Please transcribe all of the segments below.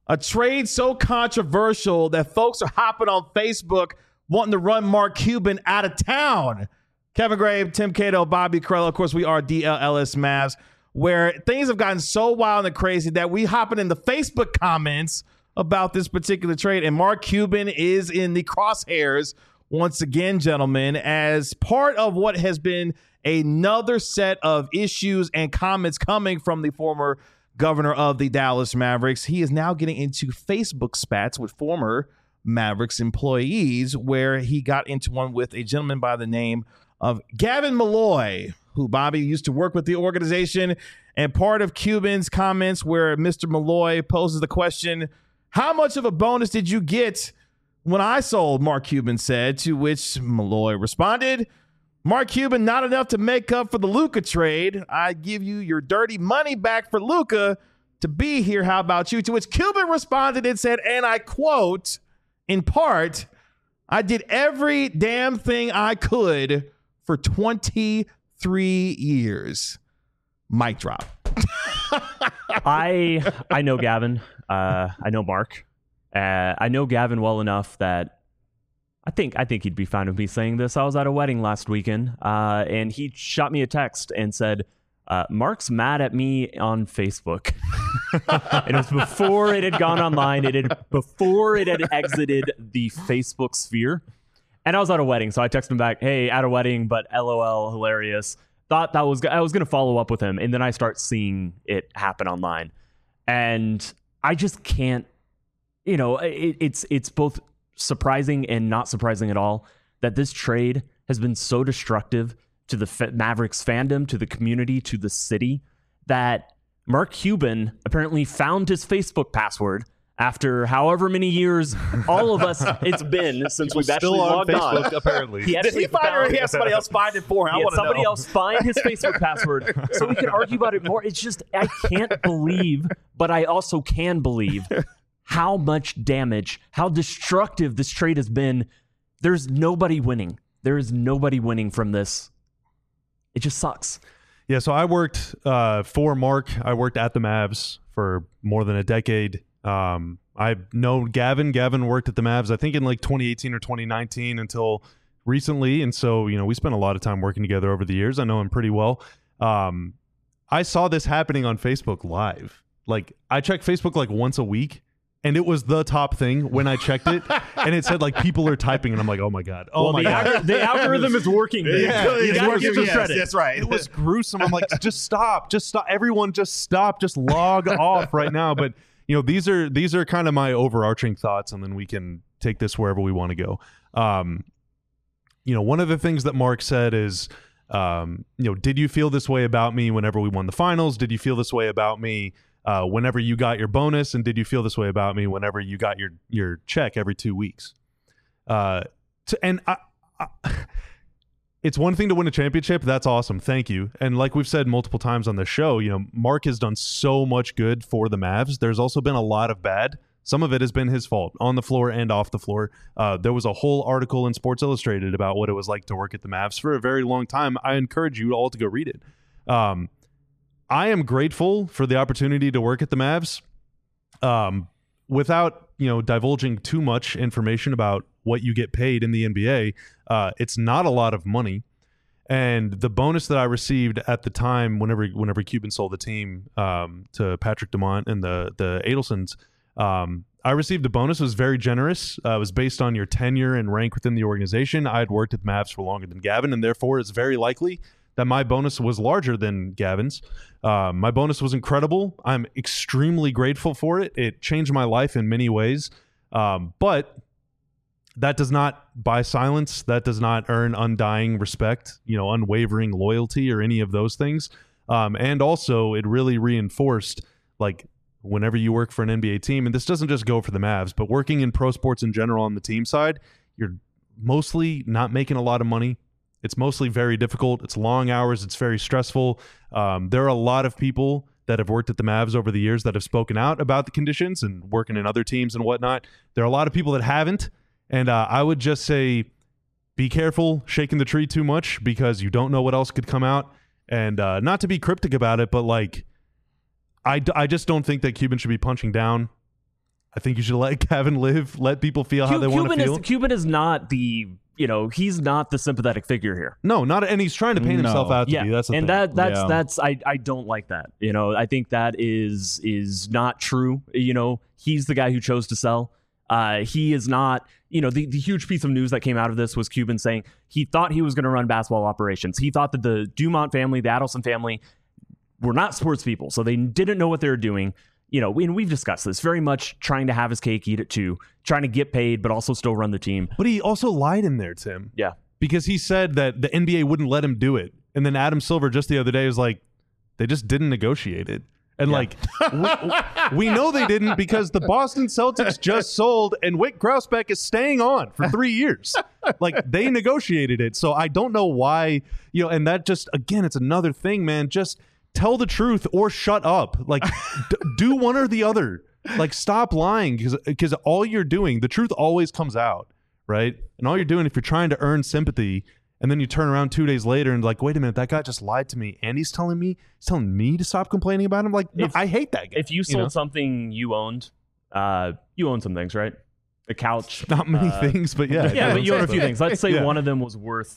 A trade so controversial that folks are hopping on Facebook wanting to run Mark Cuban out of town. Kevin Grave, Tim Cato, Bobby Carello. Of course, we are DLLS Mavs, where things have gotten so wild and crazy that we hopping in the Facebook comments about this particular trade. And Mark Cuban is in the crosshairs once again, gentlemen, as part of what has been another set of issues and comments coming from the former governor of the Dallas Mavericks. He is now getting into Facebook spats with former Mavericks employees, where he got into one with a gentleman by the name of Gavin Malloy, who, Bobby, used to work with the organization. And part of Cuban's comments, where Mr. Malloy poses the question, how much of a bonus did you get when I sold? Mark Cuban said, to which Malloy responded, Mark Cuban, not enough to make up for the Luka trade. I give you your dirty money back for Luka to be here. How about you? To which Cuban responded and said, and I quote, in part, I did every damn thing I could for 23 years. Mic drop. I know Gavin. I know Mark. I know Gavin well enough that I think he'd be fine with me saying this. I was at a wedding last weekend, and he shot me a text and said, Mark's mad at me on Facebook. And it was before it had gone online. Before it had exited the Facebook sphere. And I was at a wedding, so I texted him back, hey, at a wedding, but LOL, hilarious. Thought I was going to follow up with him, and then I start seeing it happen online. And I just can't, it's both surprising and not surprising at all that this trade has been so destructive to the Mavericks fandom, to the community, to the city, that Mark Cuban apparently found his Facebook password after however many years all of us it's been since we've actually logged Facebook, on. apparently. Did he find it, or he had somebody else find it for him? He had somebody else find his Facebook password so we can argue about it more. It's just, I can't believe, but I also can believe how much damage, how destructive this trade has been. There's nobody winning. There is nobody winning from this. It just sucks. Yeah, so I worked for Mark. I worked at the Mavs for more than a decade. I've known Gavin. Gavin worked at the Mavs, I think, in like 2018 or 2019 until recently. And so, we spent a lot of time working together over the years. I know him pretty well. I saw this happening on Facebook live. Like, I check Facebook like once a week, and it was the top thing when I checked it. And it said, like, people are typing, and I'm like, oh my God. The algorithm is working. Yeah, you got to give some yes, credit. That's right. It was gruesome. I'm like, just stop. Everyone just stop. Just log off right now. But these are kind of my overarching thoughts, and then we can take this wherever we want to go. One of the things that Mark said is, did you feel this way about me whenever we won the finals? Did you feel this way about me whenever you got your bonus? And did you feel this way about me whenever you got your check every 2 weeks? It's one thing to win a championship. That's awesome. Thank you. And like we've said multiple times on the show, Mark has done so much good for the Mavs. There's also been a lot of bad. Some of it has been his fault on the floor and off the floor. There was a whole article in Sports Illustrated about what it was like to work at the Mavs for a very long time. I encourage you all to go read it. I am grateful for the opportunity to work at the Mavs. Without divulging too much information about what you get paid in the NBA, it's not a lot of money. And the bonus that I received at the time, whenever Cuban sold the team to Patrick Dumont and the Adelsons, I received a bonus. It was very generous. It was based on your tenure and rank within the organization. I had worked at the Mavs for longer than Gavin, and therefore it's very likely that my bonus was larger than Gavin's. My bonus was incredible. I'm extremely grateful for it. It changed my life in many ways. But that does not buy silence. That does not earn undying respect, unwavering loyalty or any of those things. And also it really reinforced, like, whenever you work for an NBA team, and this doesn't just go for the Mavs, but working in pro sports in general on the team side, you're mostly not making a lot of money. It's mostly very difficult. It's long hours. It's very stressful. There are a lot of people that have worked at the Mavs over the years that have spoken out about the conditions and working in other teams and whatnot. There are a lot of people that haven't. And I would just say, be careful shaking the tree too much, because you don't know what else could come out. And not to be cryptic about it, but like, I just don't think that Cuban should be punching down. I think you should let Gavin live, let people feel how they want to feel. Cuban is not the, he's not the sympathetic figure here. No, not, and he's trying to paint himself out to be. That's the thing. That's I don't like that. I think that is not true. He's the guy who chose to sell. He is not, the huge piece of news that came out of this was Cuban saying he thought he was going to run basketball operations. He thought that the Dumont family, the Adelson family, were not sports people, so they didn't know what they were doing. And we've discussed this, very much trying to have his cake, eat it too, trying to get paid, but also still run the team. But he also lied in there, Tim. Yeah. Because he said that the NBA wouldn't let him do it. And then Adam Silver just the other day was like, they just didn't negotiate it. And we know they didn't because the Boston Celtics just sold and Wick Grousbeck is staying on for 3 years. They negotiated it. So I don't know why, and that just, again, it's another thing, man. Just tell the truth or shut up. Do one or the other. Stop lying because all you're doing, the truth always comes out, right? And all you're doing, if you're trying to earn sympathy, and then you turn around 2 days later and wait a minute, that guy just lied to me, and he's telling me to stop complaining about him. No, I hate that guy. If you sold something you owned, you own some things, right? The couch, not many things, but yeah, yeah, but you own a few things. Let's say one of them was worth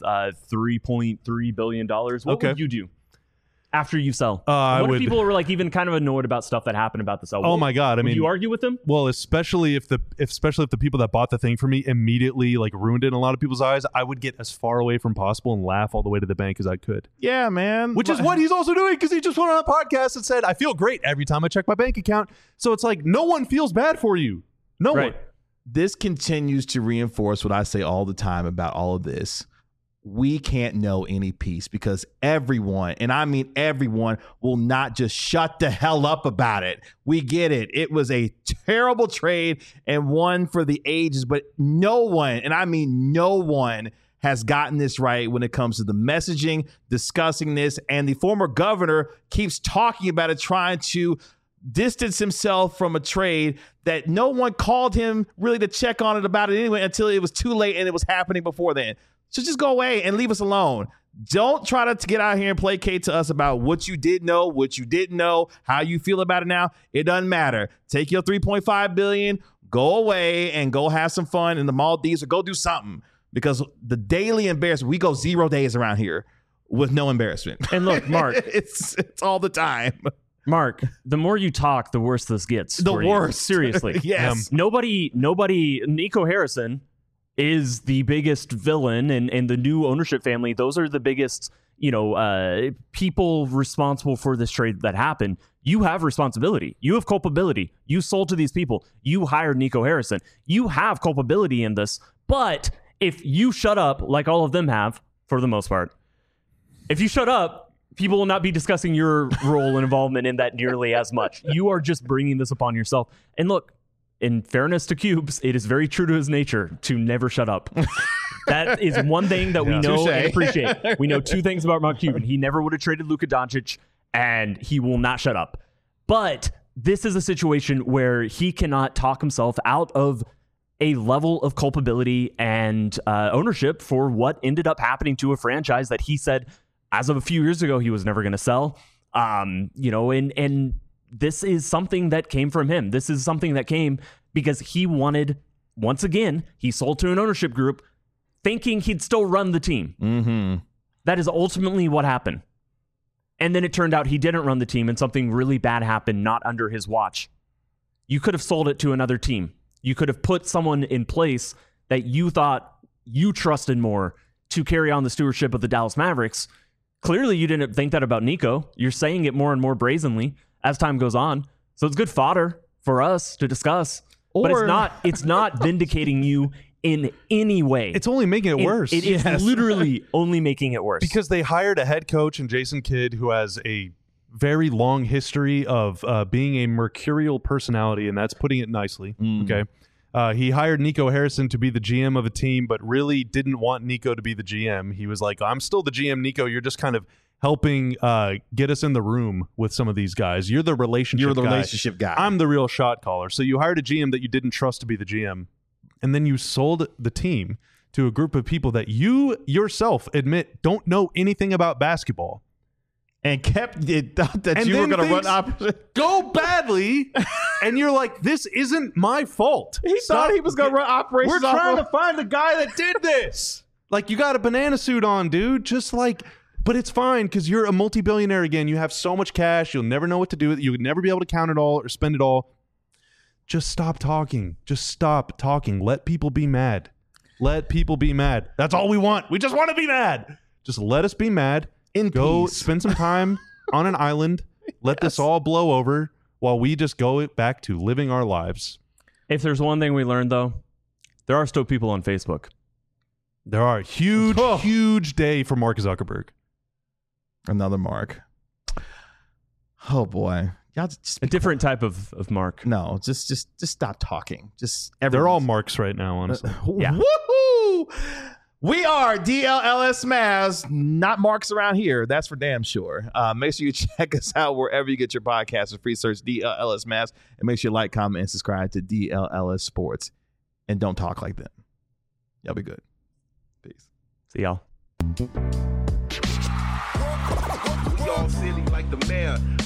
$3.3 billion. What would you do after you sell? What if people were even kind of annoyed about stuff that happened about the sell? Oh my God! Would you argue with them? Well, especially if the people that bought the thing for me immediately ruined it in a lot of people's eyes, I would get as far away from possible and laugh all the way to the bank as I could. Yeah, man. Which is what he's also doing because he just went on a podcast and said, "I feel great every time I check my bank account." So it's no one feels bad for you. No one. This continues to reinforce what I say all the time about all of this. We can't know any peace because everyone, and I mean everyone, will not just shut the hell up about it. We get it. It was a terrible trade and one for the ages, but no one, and I mean no one, has gotten this right when it comes to the messaging, discussing this, and the former governor keeps talking about it, trying to distance himself from a trade that no one called him really to check on it about it anyway until it was too late and it was happening before then. So just go away and leave us alone. Don't try to get out here and placate to us about what you did know, what you didn't know, how you feel about it now. It doesn't matter. Take your $3.5 billion, go away and go have some fun in the Maldives or go do something, because the daily embarrassment, we go 0 days around here with no embarrassment. And look, Mark, it's all the time. Mark, the more you talk, the worse this gets. The worse. Seriously. Yes. Nobody, Nico Harrison is the biggest villain, and the new ownership family, those are the biggest, people responsible for this trade that happened. You have responsibility. You have culpability. You sold to these people. You hired Nico Harrison. You have culpability in this. But if you shut up, like all of them have, for the most part, if you shut up, people will not be discussing your role and involvement in that nearly as much. You are just bringing this upon yourself. And look, in fairness to Cubes, it is very true to his nature to never shut up. That is one thing that we know and appreciate. We know two things about Mark Cuban. He never would have traded Luka Doncic, and he will not shut up. But this is a situation where he cannot talk himself out of a level of culpability and ownership for what ended up happening to a franchise that he said, as of a few years ago, he was never going to sell. And this is something that came from him. This is something that came because he wanted, once again, he sold to an ownership group thinking he'd still run the team. Mm-hmm. That is ultimately what happened. And then it turned out he didn't run the team and something really bad happened not under his watch. You could have sold it to another team. You could have put someone in place that you thought you trusted more to carry on the stewardship of the Dallas Mavericks. Clearly, you didn't think that about Nico. You're saying it more and more brazenly as time goes on. So it's good fodder for us to discuss. But it's not vindicating you in any way. It's only making it worse. It is literally only making it worse. Because they hired a head coach in Jason Kidd who has a very long history of being a mercurial personality, and that's putting it nicely. Okay. He hired Nico Harrison to be the GM of a team, but really didn't want Nico to be the GM. He was like, I'm still the GM, Nico. You're just kind of helping get us in the room with some of these guys. You're the relationship guy. I'm the real shot caller. So you hired a GM that you didn't trust to be the GM, and then you sold the team to a group of people that you yourself admit don't know anything about basketball. and thought that And you were then going to run things opposite. go badly, and you're like, this isn't my fault. He thought he was going to run operations. We're trying off to find the guy that did this. Like, you got a banana suit on, dude. Just like, but it's fine because you're a multi-billionaire again. You have so much cash. You'll never know what to do with it. You would never be able to count it all or spend it all. Just stop talking. Just stop talking. Let people be mad. Let people be mad. That's all we want. We just want to be mad. Just let us be mad. Go peace. spend some time on an island. Let this all blow over while we just go back to living our lives. If there's one thing we learned, though, there are still people on Facebook. There are huge day for Mark Zuckerberg. Another Mark. Oh boy, y'all just A different type of Mark. No, just stop talking. They're all Marks right now, honestly. Yeah. Woohoo! We are DLLS Mavs, not Marks around here. That's for damn sure. Make sure you check us out wherever you get your podcasts. Free search DLLS Mavs, and make sure you like, comment, and subscribe to DLLS Sports. And don't talk like them. Y'all be good. Peace. See y'all. We all silly like the mayor.